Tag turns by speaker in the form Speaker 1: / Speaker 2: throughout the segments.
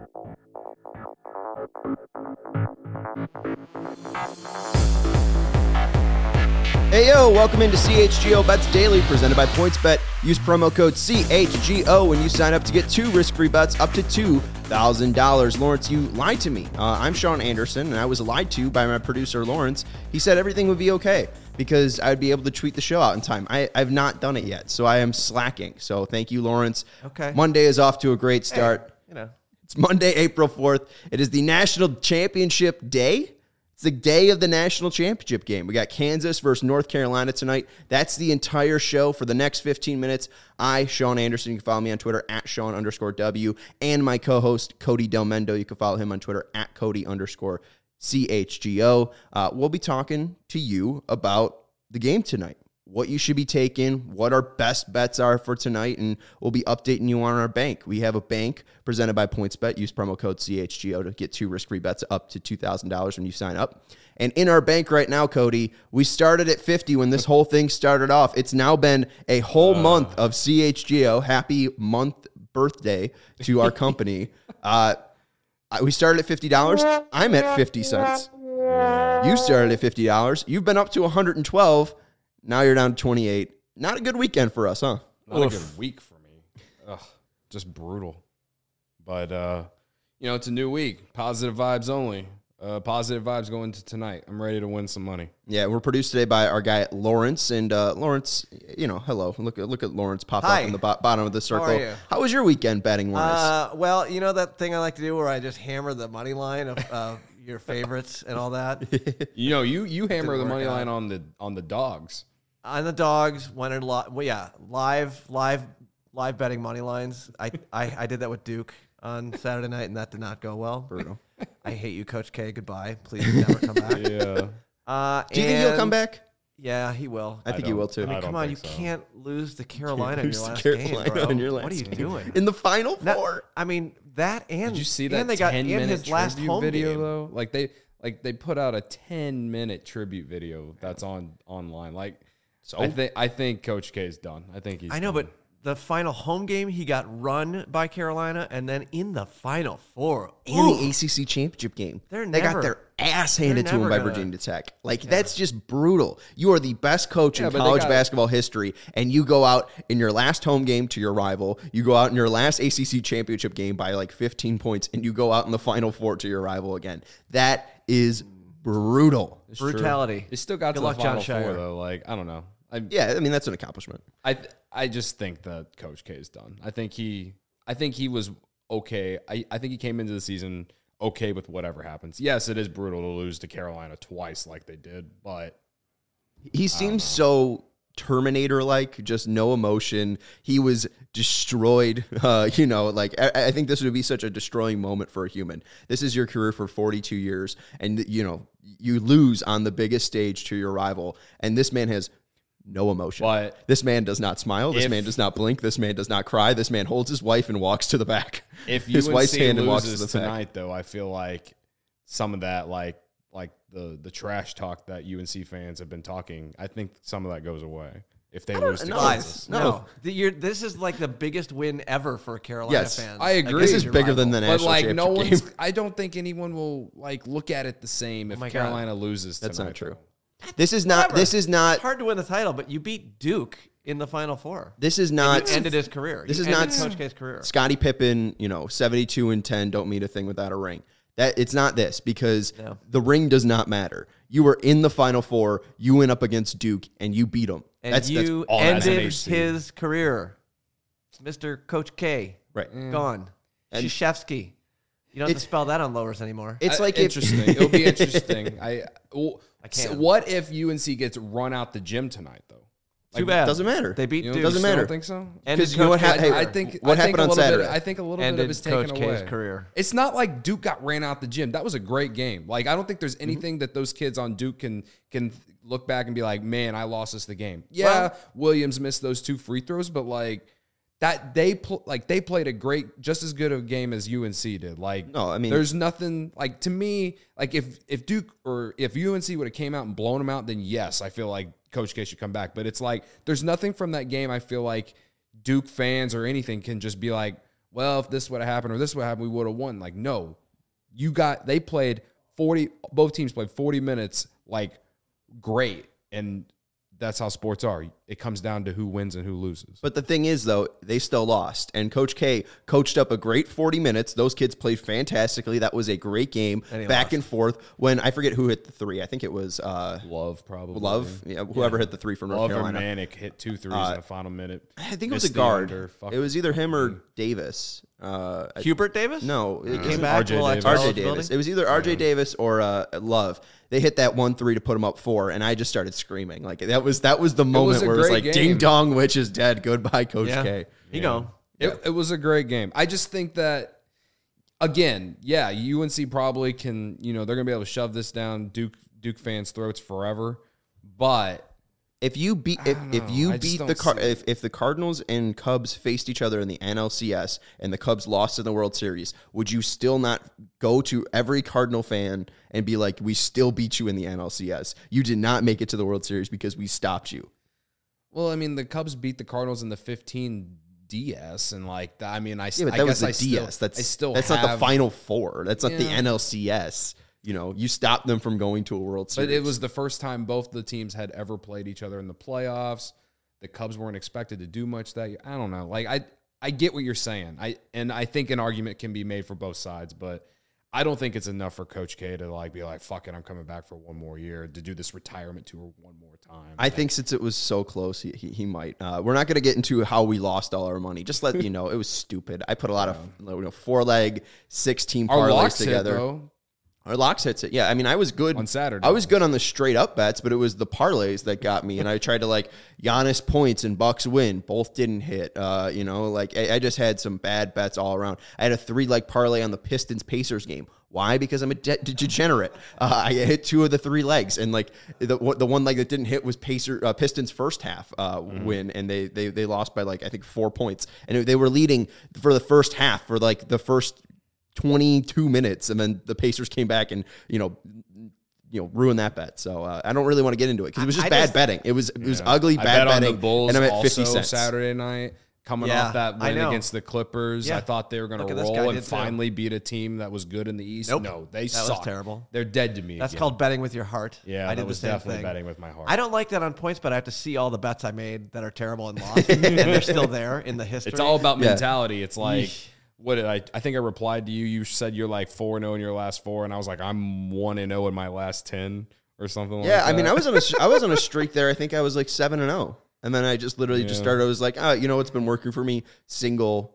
Speaker 1: Hey yo, welcome into CHGO Bets Daily, presented by PointsBet. Use promo code CHGO when you sign up to get 2 risk-free bets up to $2,000. Lawrence, you lied to me. I'm Sean Anderson, and I was lied to by my producer, Lawrence. He said everything would be okay because I'd be able to tweet the show out in time. I've not done it yet, so I am slacking. So thank you, Lawrence.
Speaker 2: Okay.
Speaker 1: Monday is off to a great start.
Speaker 2: Hey,
Speaker 1: It's Monday, April 4th. It is the National Championship Day. It's the day of the national championship game. We got Kansas versus North Carolina tonight. That's the entire show for the next 15 minutes. I, Sean Anderson, you can follow me on Twitter at Sean_W, and my co-host, Cody Del Mendo. You can follow him on Twitter at Cody_CHGO. We'll be talking to you about the game tonight, what you should be taking, what our best bets are for tonight, and we'll be updating you on our bank. We have a bank presented by PointsBet. Use promo code CHGO to get 2 risk-free bets up to $2,000 when you sign up. And in our bank right now, Cody, we started at 50 when this whole thing started off. It's now been a whole month of CHGO. Happy month birthday to our company. We started at $50. I'm at 50 cents. You started at $50. You've been up to 112. Now you're down to 28. Not a good weekend for us, huh?
Speaker 3: Not a good week for me. Just brutal. But, it's a new week. Positive vibes only. Positive vibes going into tonight. I'm ready to win some money.
Speaker 1: Yeah, we're produced today by our guy, Lawrence. And Lawrence, hello. Look at Lawrence pop
Speaker 2: Hi.
Speaker 1: up in the bottom of the circle.
Speaker 2: How are you?
Speaker 1: How was your weekend betting-wise?
Speaker 2: Well, you know that thing I like to do where I just hammer the money line of your favorites and all that?
Speaker 3: You hammer the
Speaker 2: work
Speaker 3: money
Speaker 2: out.
Speaker 3: line on the dogs.
Speaker 2: On the dogs, went in live betting money lines. I did that with Duke on Saturday night, and that did not go well.
Speaker 1: Brutal.
Speaker 2: I hate you, Coach K. Goodbye. Please never come back.
Speaker 3: Yeah.
Speaker 1: Do you think he'll come back?
Speaker 2: Yeah, he will.
Speaker 1: I think he will, too.
Speaker 2: I mean,
Speaker 3: I don't
Speaker 2: come on, you
Speaker 3: think so.
Speaker 2: can't lose to Carolina in
Speaker 1: Lose
Speaker 2: your
Speaker 1: to
Speaker 2: last
Speaker 1: Carolina
Speaker 2: game, bro.
Speaker 1: in your last
Speaker 2: What are you
Speaker 1: game.
Speaker 2: doing?
Speaker 1: In the Final Four?
Speaker 2: I mean, that and
Speaker 3: Did you see that
Speaker 2: and they got in
Speaker 3: 10-minute
Speaker 2: his last
Speaker 3: tribute
Speaker 2: home
Speaker 3: video
Speaker 2: game.
Speaker 3: though? Like they put out a 10-minute tribute video that's online. I think Coach K is done. I think he's
Speaker 2: I know,
Speaker 3: done.
Speaker 2: but the final home game, he got run by Carolina, and then in the Final Four,
Speaker 1: And the ACC championship game.
Speaker 2: They're
Speaker 1: They got
Speaker 2: never-
Speaker 1: their ass handed to them
Speaker 2: never
Speaker 1: by
Speaker 2: gonna-
Speaker 1: Virginia Tech. That's just brutal. You are the best coach in
Speaker 3: Yeah, but they
Speaker 1: college
Speaker 3: got-
Speaker 1: basketball history, and you go out in your last home game to your rival. You go out in your last ACC championship game by like 15 points, and you go out in the Final Four to your rival again. That is brutal.
Speaker 3: It's true.
Speaker 2: brutality.
Speaker 3: They still got
Speaker 2: Good
Speaker 3: to
Speaker 2: luck,
Speaker 3: the Final
Speaker 2: John
Speaker 3: Four
Speaker 2: Shire.
Speaker 3: though. I don't know.
Speaker 1: Yeah, I mean, that's an accomplishment.
Speaker 3: I just think that Coach K is done. I think he was okay. I think he came into the season okay with whatever happens. Yes, it is brutal to lose to Carolina twice like they did, but
Speaker 1: He seems so Terminator-like, just no emotion. He was destroyed. I think this would be such a destroying moment for a human. This is your career for 42 years, and you lose on the biggest stage to your rival, and this man has no emotion.
Speaker 3: But
Speaker 1: this man does not smile. This man does not blink. This man does not cry. This man holds his wife and walks to the back.
Speaker 3: if
Speaker 1: his
Speaker 3: UNC
Speaker 1: wife's hand and walks to
Speaker 3: loses
Speaker 1: the back.
Speaker 3: tonight, though, I feel like some of that, like the trash talk that UNC fans have been talking, I think some of that goes away if they lose to
Speaker 1: know.
Speaker 3: Kansas.
Speaker 1: No.
Speaker 2: This is like the biggest win ever for Carolina
Speaker 1: Yes,
Speaker 2: fans.
Speaker 3: I agree.
Speaker 1: This is
Speaker 2: Your
Speaker 1: bigger than
Speaker 2: rival.
Speaker 1: the
Speaker 3: But
Speaker 1: national championship
Speaker 3: no one's.
Speaker 1: game.
Speaker 3: I don't think anyone will look at it the same if
Speaker 2: my God.
Speaker 3: Carolina loses.
Speaker 1: That's
Speaker 3: tonight,
Speaker 1: not true.
Speaker 3: though.
Speaker 1: This is not.
Speaker 2: Whatever.
Speaker 1: This is not.
Speaker 2: It's hard to win the title, but you beat Duke in the Final Four.
Speaker 1: This is
Speaker 2: You
Speaker 1: not.
Speaker 2: ended his career.
Speaker 1: This
Speaker 2: You
Speaker 1: is
Speaker 2: ended
Speaker 1: not
Speaker 2: Coach K's career.
Speaker 1: Scottie Pippen, 72-10, don't mean a thing without a ring. That it's not this because
Speaker 2: No.
Speaker 1: the ring does not matter. You were in the Final Four. You went up against Duke and you beat them.
Speaker 2: And
Speaker 1: That's
Speaker 2: you
Speaker 3: all that's
Speaker 2: ended
Speaker 3: NHC.
Speaker 2: his career. Mr. Coach K,
Speaker 1: right.
Speaker 2: gone.
Speaker 1: And-
Speaker 2: Krzyzewski. You don't have to
Speaker 1: It's-
Speaker 2: spell that on lowers anymore.
Speaker 1: It's like if,
Speaker 3: interesting. It'll be interesting. I
Speaker 2: can't.
Speaker 3: What if UNC gets run out the gym tonight though?
Speaker 2: Too bad.
Speaker 1: doesn't matter.
Speaker 2: They beat
Speaker 3: You
Speaker 2: Duke.
Speaker 1: Doesn't
Speaker 3: still
Speaker 1: matter.
Speaker 3: Don't think so?
Speaker 2: Ended
Speaker 1: because you know what
Speaker 2: Coach
Speaker 1: happened.
Speaker 3: I think
Speaker 1: what happened
Speaker 3: a
Speaker 1: on
Speaker 3: little
Speaker 1: Saturday?
Speaker 3: Bit, I think a little bit
Speaker 2: Ended
Speaker 3: of it's taken
Speaker 2: Coach
Speaker 3: away.
Speaker 2: K's career.
Speaker 3: It's not like Duke got ran out the gym. That was a great game. I don't think there's anything that those kids on Duke can look back and be like, man, I lost us the game. Yeah, Williams missed those 2 free throws, but that they played a great, just as good a game as UNC did.
Speaker 1: No, I mean,
Speaker 3: there's nothing to me. If Duke or if UNC would have came out and blown them out, then yes, I feel like Coach K should come back. But it's there's nothing from that game. I feel like Duke fans or anything can just be like, well, if this would have happened or this would have happened, we would have won. Like, no, they played 40, both teams played 40 minutes, like, great. And that's how sports are. It comes down to who wins and who loses.
Speaker 1: But the thing is, though, they still lost. And Coach K coached up a great 40 minutes. Those kids played fantastically. That was a great game, back and forth. When I forget who hit the three. I think it was
Speaker 3: Love, probably.
Speaker 1: Love. Yeah, whoever hit the three from North Carolina.
Speaker 3: Love or Manic hit 2 threes in the final minute.
Speaker 1: I think it was a guard. It was either him or Davis.
Speaker 2: Hubert Davis?
Speaker 1: No.
Speaker 2: He came back.
Speaker 1: RJ Davis. It was either RJ Davis or Love. They hit that 1-3 to put him up 4, and I just started screaming. Like that was the moment where it was like, game. Ding dong, Witch is dead. Goodbye, Coach K.
Speaker 2: You know.
Speaker 3: It was a great game. I just think that, again, UNC probably can, they're going to be able to shove this down Duke fans' throats forever. But
Speaker 1: if the Cardinals and Cubs faced each other in the NLCS and the Cubs lost in the World Series, would you still not go to every Cardinal fan and be like, we still beat you in the NLCS? You did not make it to the World Series because we stopped you.
Speaker 3: Well, I mean, the Cubs beat the Cardinals in the 15 DS, and like that. I mean,
Speaker 1: that was the DS. That's not the Final Four. That's not the NLCS. You stopped them from going to a World Series.
Speaker 3: But it was the first time both the teams had ever played each other in the playoffs. The Cubs weren't expected to do much that year. I don't know. Like I get what you're saying. I think an argument can be made for both sides, but I don't think it's enough for Coach K to be like, fuck it, I'm coming back for one more year, to do this retirement tour one more time.
Speaker 1: I think since it was so close, he might. We're not going to get into how we lost all our money. Just let you know, it was stupid. I put a lot of 4-leg, 6-team parlays together. Our locks hits it. Yeah, I mean, I was good
Speaker 3: on Saturday.
Speaker 1: I was good on the straight up bets, but it was the parlays that got me. And I tried to Giannis points and Bucks win. Both didn't hit. I just had some bad bets all around. I had a 3-leg parlay on the Pistons Pacers game. Why? Because I'm a degenerate. I hit 2 of the 3 legs, and the one leg that didn't hit was Pistons first half win, and they lost by I think 4 points, and they were leading for the first half for the first 22 minutes, and then the Pacers came back and ruined that bet. So I don't really want to get into it because it was just bad betting. It was ugly bad betting. On the Bulls, and I'm at 50 cents
Speaker 3: Saturday night. Coming off that win against the Clippers, I thought they were going to roll and finally beat a team that was good in the East.
Speaker 2: Nope.
Speaker 3: No, they
Speaker 2: suck. That was terrible.
Speaker 3: They're dead to me.
Speaker 2: That's called betting with your heart.
Speaker 3: Yeah, I did the same thing. Betting with my heart.
Speaker 2: I don't like that on points, but I have to see all the bets I made that are terrible and lost, and they're still there in the history.
Speaker 3: It's all about mentality. It's like, what did I think I replied to you. You said you're 4-0 in your last 4, and I was like, I'm 1-0 in my last 10 or something like that.
Speaker 1: Yeah, I mean, I was on a streak there. I think I was 7-0. And then I just literally just started. I was like, what's been working for me? Single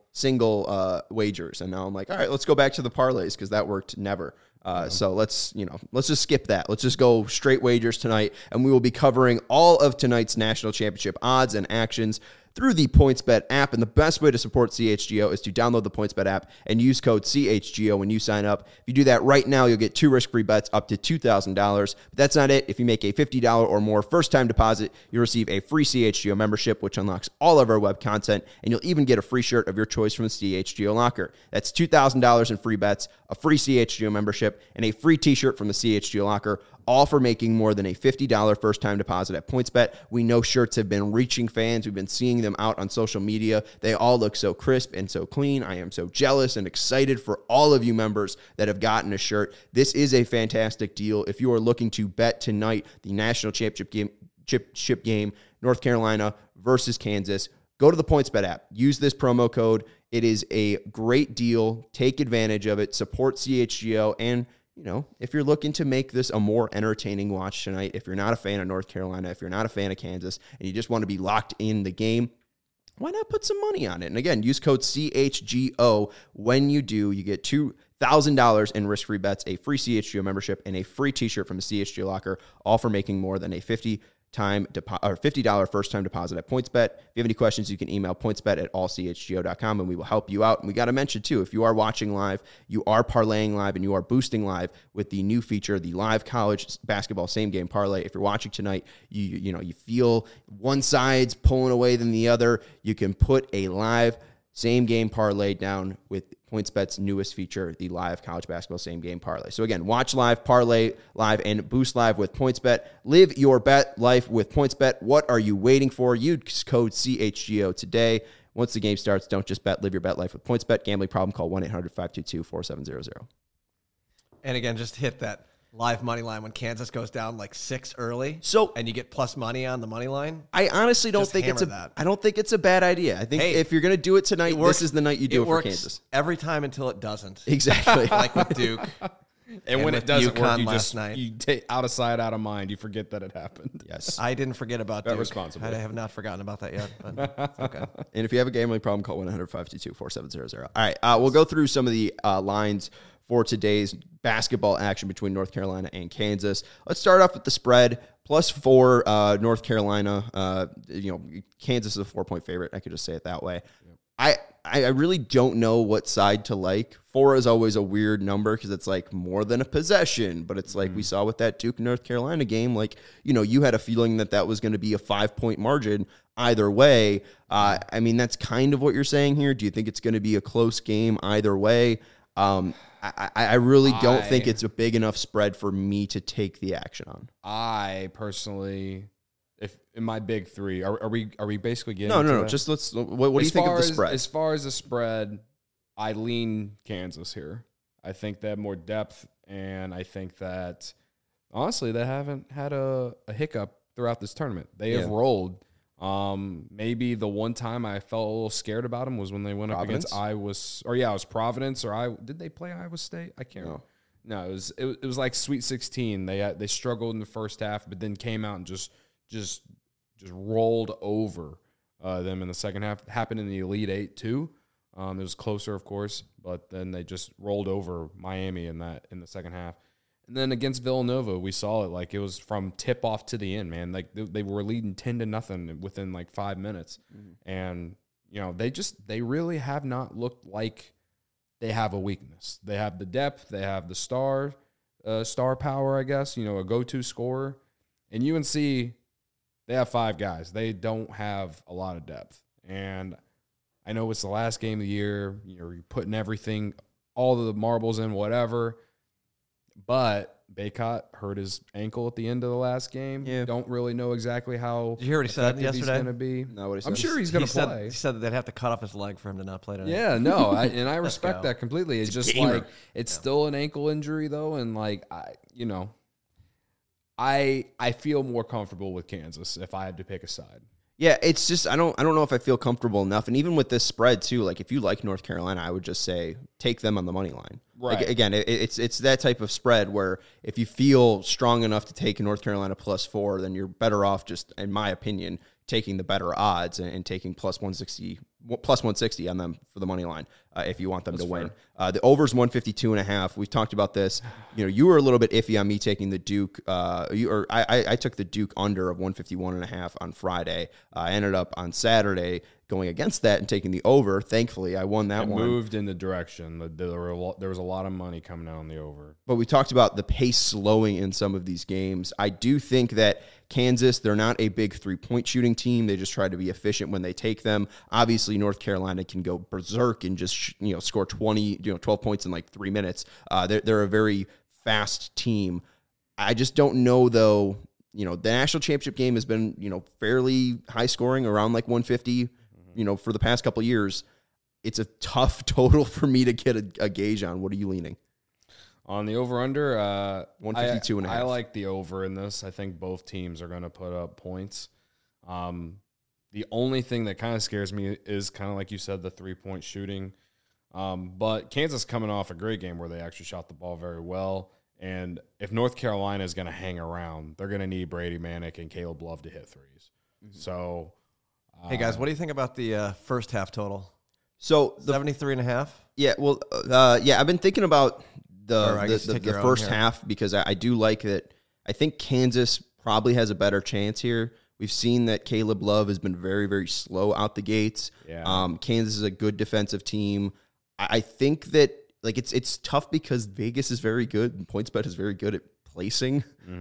Speaker 1: wagers. And now I'm like, all right, let's go back to the parlays because that worked never. So let's just skip that. Let's just go straight wagers tonight. And we will be covering all of tonight's national championship odds and actions through the PointsBet app. And the best way to support CHGO is to download the PointsBet app and use code CHGO when you sign up. If you do that right now, you'll get 2 risk-free bets up to $2,000. But that's not it. If you make a $50 or more first-time deposit, you'll receive a free CHGO membership, which unlocks all of our web content, and you'll even get a free shirt of your choice from the CHGO locker. That's $2,000 in free bets, a free CHGO membership, and a free t-shirt from the CHGO locker, all for making more than a $50 first-time deposit at PointsBet. We know shirts have been reaching fans. We've been seeing them out on social media. They all look so crisp and so clean. I am so jealous and excited for all of you members that have gotten a shirt. This is a fantastic deal. If you are looking to bet tonight, the national championship game, North Carolina versus Kansas, go to the PointsBet app. Use this promo code. It is a great deal. Take advantage of it. Support CHGO. And if you're looking to make this a more entertaining watch tonight, if you're not a fan of North Carolina, if you're not a fan of Kansas, and you just want to be locked in the game, why not put some money on it? And again, use code CHGO. When you do, you get $2,000 in risk-free bets, a free CHGO membership, and a free t-shirt from the CHGO locker, all for making more than a $50 first-time deposit at PointsBet. If you have any questions, you can email pointsbet@allchgo.com, and we will help you out. And we got to mention, too, if you are watching live, you are parlaying live, and you are boosting live with the new feature, the live college basketball same-game parlay. If you're watching tonight, you feel one side's pulling away than the other, you can put a live same-game parlay down with PointsBet's newest feature, the live college basketball same-game parlay. So again, watch live, parlay live, and boost live with PointsBet. Live your bet life with PointsBet. What are you waiting for? Use code CHGO today. Once the game starts, don't just bet. Live your bet life with PointsBet. Gambling problem? Call 1-800-522-4700.
Speaker 2: And again, just hit that live money line when Kansas goes down like 6 early.
Speaker 1: So
Speaker 2: and you get plus money on the money line.
Speaker 1: I honestly don't
Speaker 2: Just
Speaker 1: think it's
Speaker 2: hammer that.
Speaker 1: I don't think it's a bad idea. I think
Speaker 2: Hey,
Speaker 1: if you're going to do it tonight, this is the night you do it for
Speaker 2: works
Speaker 1: Kansas.
Speaker 2: every time until it doesn't.
Speaker 1: Exactly.
Speaker 2: Like with Duke.
Speaker 3: And when
Speaker 2: with
Speaker 3: it doesn't work,
Speaker 2: UConn
Speaker 3: you
Speaker 2: last
Speaker 3: just
Speaker 2: night.
Speaker 3: you take out of sight, out of mind. You forget that it happened.
Speaker 1: Yes.
Speaker 2: I didn't forget about
Speaker 3: Bet
Speaker 2: Duke.
Speaker 3: responsibly.
Speaker 2: I have not forgotten about that yet. But it's okay.
Speaker 1: And if you have a gambling problem, call 1-800-522-4700. All right, we'll go through some of the lines for today's basketball action between North Carolina and Kansas. Let's start off with the spread. +4 North Carolina. Kansas is a 4-point favorite. I could just say it that way. Yep. I really don't know what side to like. 4 is always a weird number because it's like more than a possession, but it's like we saw with that Duke North Carolina game. Like, you had a feeling that was going to be a 5-point margin either way. I mean, that's kind of what you're saying here. Do you think it's going to be a close game either way? I really don't think it's a big enough spread for me to take the action on.
Speaker 3: I personally, if in my big 3, are we basically getting
Speaker 1: No.
Speaker 3: that?
Speaker 1: Just let's. What do you think of the spread?
Speaker 3: As far as the spread, I lean Kansas here. I think they have more depth, and I think that honestly they haven't had a hiccup throughout this tournament. They have rolled. Maybe the one time I felt a little scared about them was when they went up against Iowa, it was Providence, did they play Iowa State? I can't remember. No, it was like Sweet 16. They struggled in the first half, but then came out and just rolled over them in the second half. It happened in the Elite Eight too. It was closer, of course, but then they just rolled over Miami in the second half. And then against Villanova, we saw it like it was from tip off to the end, man. Like they were leading 10-0 within like 5 minutes, and they really have not looked like they have a weakness. They have the depth, they have the star power, I guess. A go-to scorer, and UNC, they have 5 guys. They don't have a lot of depth, and I know it's the last game of the year. You're putting everything, all the marbles in, whatever. But Baycott hurt his ankle at the end of the last game. Yeah. Don't really know exactly how.
Speaker 2: Did you hear what he said yesterday?
Speaker 3: He's going to be.
Speaker 1: No, what he said.
Speaker 3: I'm sure he's going to play.
Speaker 2: He said that they'd have to cut off his leg for him to not play tonight.
Speaker 3: Yeah, no, I respect that completely. It's just
Speaker 1: gamer.
Speaker 3: like it's still an ankle injury though, and like I feel more comfortable with Kansas if I had to pick a side.
Speaker 1: Yeah, it's just I don't know if I feel comfortable enough. And even with this spread too, like if you like North Carolina, I would just say take them on the money line.
Speaker 3: Right.
Speaker 1: Like, again, it's that type of spread where if you feel strong enough to take North Carolina +4, then you're better off just, in my opinion, taking the better odds and taking +160 on them for the money line if you want them to win. The over's 152.5. We've talked about this. You were a little bit iffy on me taking the Duke. I took the Duke under of 151.5 on Friday. I ended up on Saturday going against that and taking the over. Thankfully, I won that one.
Speaker 3: Moved in the direction. There was a lot of money coming out on the over.
Speaker 1: But we talked about the pace slowing in some of these games. I do think that Kansas, they're not a big 3-point shooting team. They just try to be efficient when they take them. Obviously, North Carolina can go berserk and just score 12 points in like 3 minutes. They're a very fast team. I just don't know though. The national championship game has been fairly high scoring, around like 150. For the past couple of years. It's a tough total for me to get a gauge on. What are you leaning?
Speaker 3: On the over-under,
Speaker 1: 152.5.
Speaker 3: I like the over in this. I think both teams are going to put up points. The only thing that kind of scares me is kind of like you said, the 3-point shooting. But Kansas coming off a great game where they actually shot the ball very well. And if North Carolina is going to hang around, they're going to need Brady Manick and Caleb Love to hit threes. Mm-hmm. So,
Speaker 2: hey guys, what do you think about the first half total?
Speaker 1: So
Speaker 2: 73.5.
Speaker 1: Yeah, well, I've been thinking about the first
Speaker 2: here.
Speaker 1: half because I do like that. I think Kansas probably has a better chance here. We've seen that Caleb Love has been very, very slow out the gates.
Speaker 3: Yeah.
Speaker 1: Kansas is a good defensive team. I think that it's tough because Vegas is very good and PointsBet is very good at placing,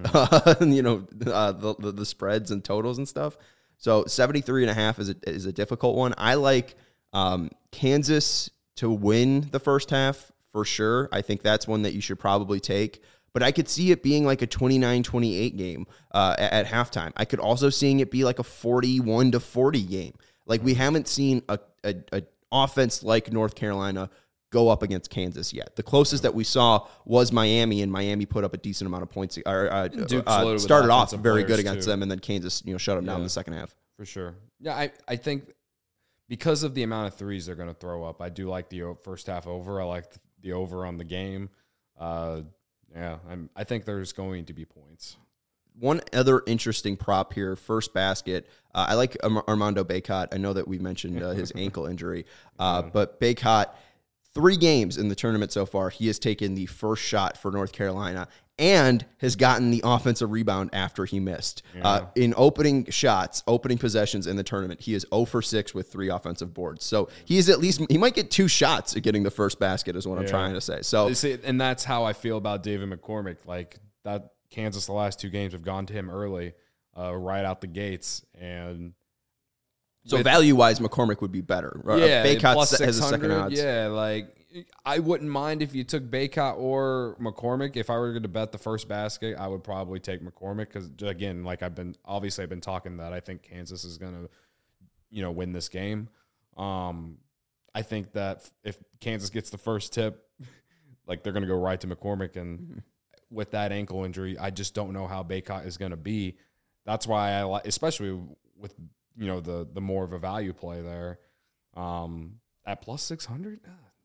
Speaker 1: the spreads and totals and stuff. So 73.5 is a difficult one. I like Kansas to win the first half for sure. I think that's one that you should probably take. But I could see it being like a 29-28 game at halftime. I could also seeing it be like a 41-40 game. Like we haven't seen a offense like North Carolina go up against Kansas yet. The closest that we saw was Miami, and Miami put up a decent amount of points. Started off very good against them, and then Kansas, shut them down in the second half.
Speaker 3: For sure. Yeah, I think because of the amount of threes they're going to throw up, I do like the first half over. I like the over on the game. I think there's going to be points.
Speaker 1: One other interesting prop here, first basket. I like Armando Bacot. I know that we mentioned his ankle injury, but Bacot, 3 games in the tournament so far, he has taken the first shot for North Carolina and has gotten the offensive rebound after he missed. In opening possessions in the tournament, he is 0 for 6 with 3 offensive boards. So he might get 2 shots at getting the first basket is what I'm trying to say. So,
Speaker 3: and that's how I feel about David McCormick. Like that, Kansas, the last 2 games have gone to him early, right out the gates. And
Speaker 1: so value-wise, McCormick would be better. Bacot
Speaker 3: plus
Speaker 1: has a second odds.
Speaker 3: Yeah, like I wouldn't mind if you took Bacot or McCormick. If I were going to bet the first basket, I would probably take McCormick because, again, like I've been talking that I think Kansas is going to, win this game. I think that if Kansas gets the first tip, like they're going to go right to McCormick, and with that ankle injury, I just don't know how Bacot is going to be. That's why I like, especially with the more of a value play there, at plus 600.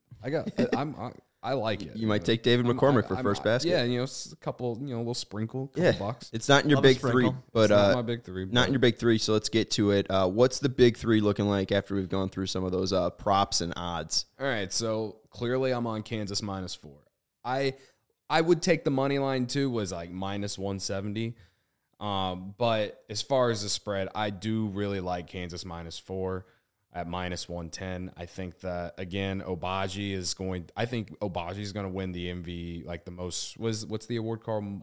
Speaker 3: I like it.
Speaker 1: You might take David McCormick for first basket.
Speaker 3: Yeah, a couple, little sprinkle, couple bucks.
Speaker 1: It's not in your big 3, but
Speaker 3: not my big 3.
Speaker 1: Not in your big 3. So let's get to it. What's the big 3 looking like after we've gone through some of those props and odds?
Speaker 3: All right, so clearly I'm on Kansas -4. I would take the money line too. Was like -170. But as far as the spread, I do really like Kansas -4 at -110. I think that, again, Obaji is going to win the MV, like the most, what's the award called?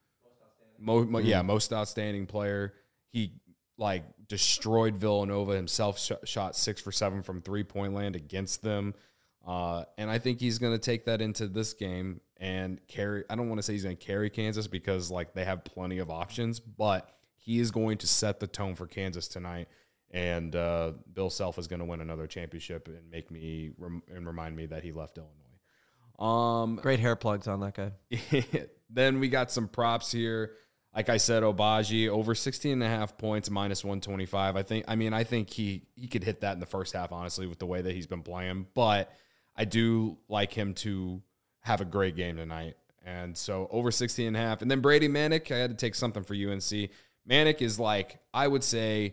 Speaker 3: Most outstanding player. He like destroyed Villanova himself, shot 6 for 7 from 3-point land against them. And I think he's going to take that into this game and carry. I don't want to say he's going to carry Kansas because like they have plenty of options, but he is going to set the tone for Kansas tonight. And Bill Self is going to win another championship and make me remind me that he left Illinois.
Speaker 2: Great hair plugs on that guy.
Speaker 3: Then we got some props here. Like I said, Obaji over 16.5 points, -125. I think he could hit that in the first half, honestly, with the way that he's been playing. But I do like him to have a great game tonight. And so over 16.5. And then Brady Manek, I had to take something for UNC. Manek is like, I would say,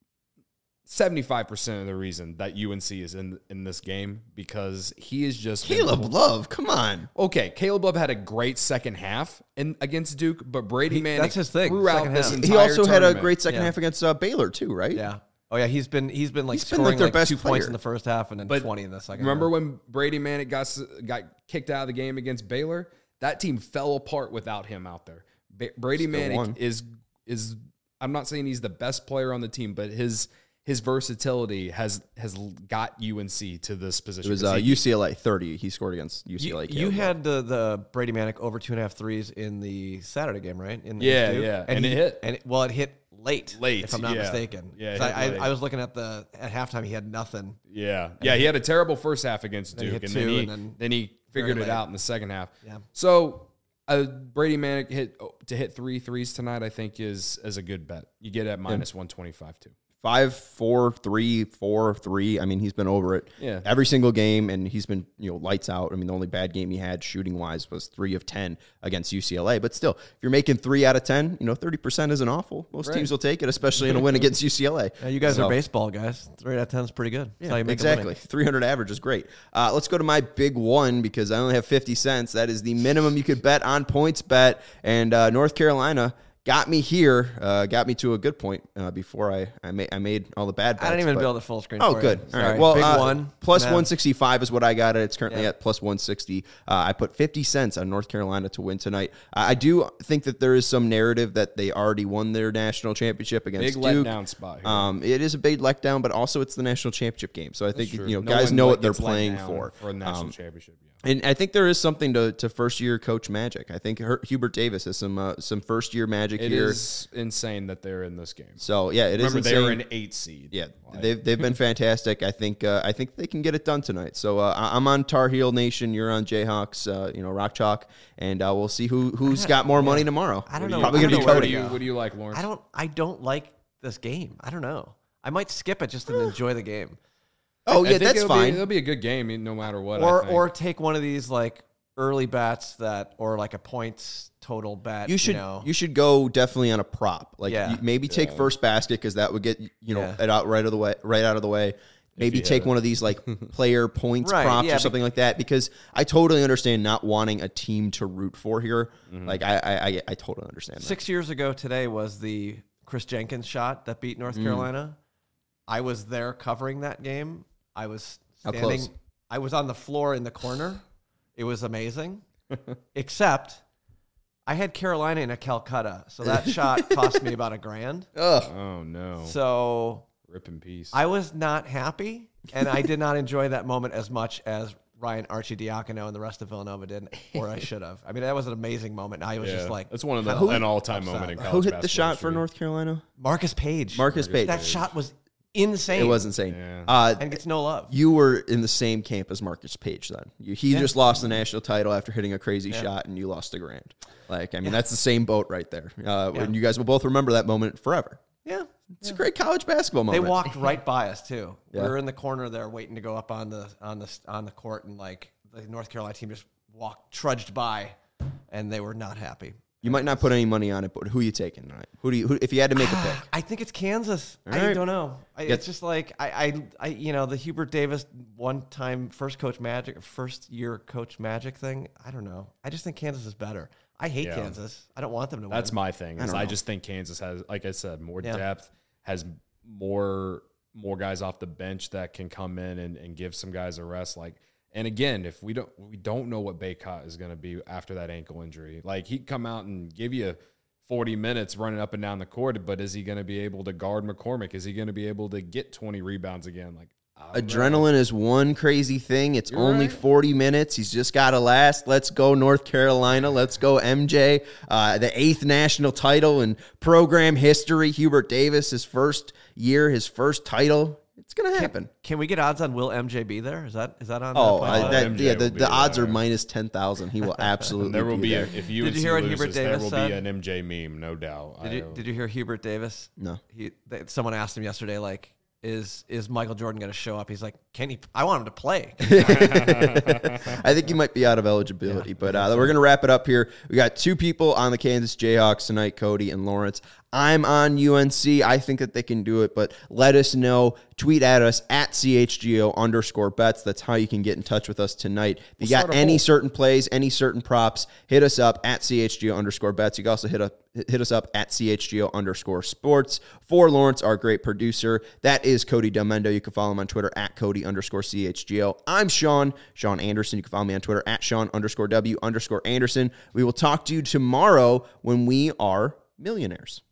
Speaker 3: 75% of the reason that UNC is in this game because he is just
Speaker 1: Caleb Love. Come on.
Speaker 3: Okay, Caleb Love had a great second half against Duke, but Brady Manek,
Speaker 2: that's his thing.
Speaker 3: Throughout this entire
Speaker 1: he also had a
Speaker 3: tournament.
Speaker 1: great second half against Baylor too, right?
Speaker 2: Yeah. Oh yeah, he's been scoring
Speaker 1: like their
Speaker 2: like
Speaker 1: best
Speaker 2: 2
Speaker 1: player.
Speaker 2: points in the first half and then 20 in the second.
Speaker 3: Remember
Speaker 2: half.
Speaker 3: when Brady Manek got kicked out of the game against Baylor? That team fell apart without him out there. Brady Manek is I'm not saying he's the best player on the team, but his versatility has got UNC to this position.
Speaker 1: It was UCLA 30. He scored against UCLA.
Speaker 2: You had the Brady Manek over 2.5 threes in the Saturday game, right?
Speaker 3: And it hit.
Speaker 2: And it hit late, if I'm not mistaken.
Speaker 3: Yeah,
Speaker 2: I was looking at halftime. He had nothing.
Speaker 3: Yeah, he had a terrible first half against Duke, and then he figured it out in the second half.
Speaker 2: Yeah.
Speaker 3: So Brady Manek hit 3 threes tonight, I think is a good bet. You get at -125 too.
Speaker 1: 5, 4, 3, 4, 3. I mean, he's been over it every single game, and he's been lights out. I mean, the only bad game he had shooting wise was 3 of 10 against UCLA. But still, if you're making 3 out of 10, 30% isn't awful. Most teams will take it, especially in a win against UCLA.
Speaker 2: Yeah, you guys are baseball guys. 3 out of 10 is pretty good. That's
Speaker 1: Yeah,
Speaker 2: how you make
Speaker 1: exactly. 300 average is great. Let's go to my big one because I only have 50 cents. That is the minimum you could bet on PointsBet, and North Carolina got me here, got me to a good point before I made all the bad bets.
Speaker 2: I didn't even build a full screen.
Speaker 1: Oh,
Speaker 2: for
Speaker 1: good.
Speaker 2: You.
Speaker 1: All right. Well,
Speaker 2: big one.
Speaker 1: Plus 165 is what I got it. It's currently at plus 160. I put 50 cents on North Carolina to win tonight. I do think that there is some narrative that they already won their national championship against Duke.
Speaker 3: Big letdown spot here.
Speaker 1: It is a big letdown, but also it's the national championship game. So I think guys know what they're playing for.
Speaker 3: For a national championship, yeah.
Speaker 1: And I think there is something to first-year coach magic. I think Hubert Davis has some first-year magic here.
Speaker 3: It is insane that they're in this game.
Speaker 1: So, yeah, it is
Speaker 3: Remember,
Speaker 1: insane.
Speaker 3: they were an 8 seed.
Speaker 1: Yeah, they've been fantastic. I think they can get it done tonight. So I'm on Tar Heel Nation. You're on Jayhawks. Rock Chalk, and we'll see who's got more money tomorrow.
Speaker 2: I don't know.
Speaker 1: Probably gonna be Cody.
Speaker 3: What do you like, Lawrence?
Speaker 2: I don't like this game. I don't know. I might skip it just to enjoy the game.
Speaker 1: Oh
Speaker 3: I
Speaker 1: yeah,
Speaker 3: think
Speaker 1: that's fine.
Speaker 3: It'll be a good game no matter what.
Speaker 2: Or take one of these like early bets or like a points total bet.
Speaker 1: You should go definitely on a prop. Like maybe take first basket because that would get it out right out of the way. Maybe take one of these like player points props or something like that, because I totally understand not wanting a team to root for here. Mm-hmm. Like I totally understand.
Speaker 2: 6 years ago today was the Chris Jenkins shot that beat North Carolina. I was there covering that game. I was standing. How close? I was on the floor in the corner. It was amazing, except I had Carolina in a Calcutta, so that shot cost me about $1,000.
Speaker 3: Oh no!
Speaker 2: So
Speaker 3: rip in peace.
Speaker 2: I was not happy, and I did not enjoy that moment as much as Ryan Arcidiacono and the rest of Villanova did, or I should have. I mean, that was an amazing moment. I was just like,
Speaker 3: that's one of an all-time moment in college
Speaker 1: Who hit
Speaker 3: basketball
Speaker 1: the shot
Speaker 3: history.
Speaker 1: for North Carolina?
Speaker 2: Marcus Page.
Speaker 1: Marcus Page.
Speaker 2: That shot was insane.
Speaker 1: It was insane.
Speaker 3: Yeah.
Speaker 2: And gets no love.
Speaker 1: You were in the same camp as Marcus Page then. He just lost the national title after hitting a crazy shot, and you lost $1,000. Like, I mean, that's the same boat right there. And you guys will both remember that moment forever.
Speaker 2: Yeah.
Speaker 1: It's a great college basketball moment.
Speaker 2: They walked right by us too.
Speaker 1: Yeah.
Speaker 2: We were in the corner there waiting to go up on the court, and like the North Carolina team just trudged by, and they were not happy.
Speaker 1: You might not put any money on it, but who are you taking tonight? Who if you had to make a pick?
Speaker 2: I think it's Kansas.
Speaker 1: All
Speaker 2: I
Speaker 1: right.
Speaker 2: don't know. It's just like the Hubert Davis one-time first-year coach magic thing. I don't know. I just think Kansas is better. I hate Kansas. I don't want them to win.
Speaker 3: That's my thing. I just think Kansas has, like I said, more depth, has more guys off the bench that can come in and give some guys a rest. Like, and again, if we don't know what Baycott is going to be after that ankle injury. Like, he'd come out and give you 40 minutes running up and down the court, but is he going to be able to guard McCormick? Is he going to be able to get 20 rebounds again? Like,
Speaker 1: adrenaline is one crazy thing. It's only 40 minutes. He's just got to last. Let's go North Carolina. Let's go MJ. The 8th national title in program history. Hubert Davis, his first year, his first title. It's going to happen.
Speaker 2: Can we get odds on will MJ be there? Is that on?
Speaker 1: The odds are minus 10,000. He will absolutely.
Speaker 3: There will be
Speaker 1: there.
Speaker 3: If you
Speaker 2: hear what Hubert
Speaker 3: there
Speaker 2: Davis
Speaker 3: will
Speaker 2: said?
Speaker 3: be an MJ meme, no doubt.
Speaker 2: Did you hear Hubert Davis?
Speaker 1: No.
Speaker 2: Someone asked him yesterday, like, is Michael Jordan going to show up? He's like, can he? I want him to play.
Speaker 1: I think he might be out of eligibility, but we're going to wrap it up here. We got 2 people on the Kansas Jayhawks tonight, Cody and Lawrence. I'm on UNC. I think that they can do it, but let us know. Tweet at us at CHGO_bets. That's how you can get in touch with us tonight. If you got any certain plays, any certain props, hit us up at CHGO_bets. You can also hit us up at CHGO_sports. For Lawrence, our great producer, that is Cody Delmendo. You can follow him on Twitter at Cody_CHGO. I'm Sean Anderson. You can follow me on Twitter at Sean_W_Anderson. We will talk to you tomorrow when we are millionaires.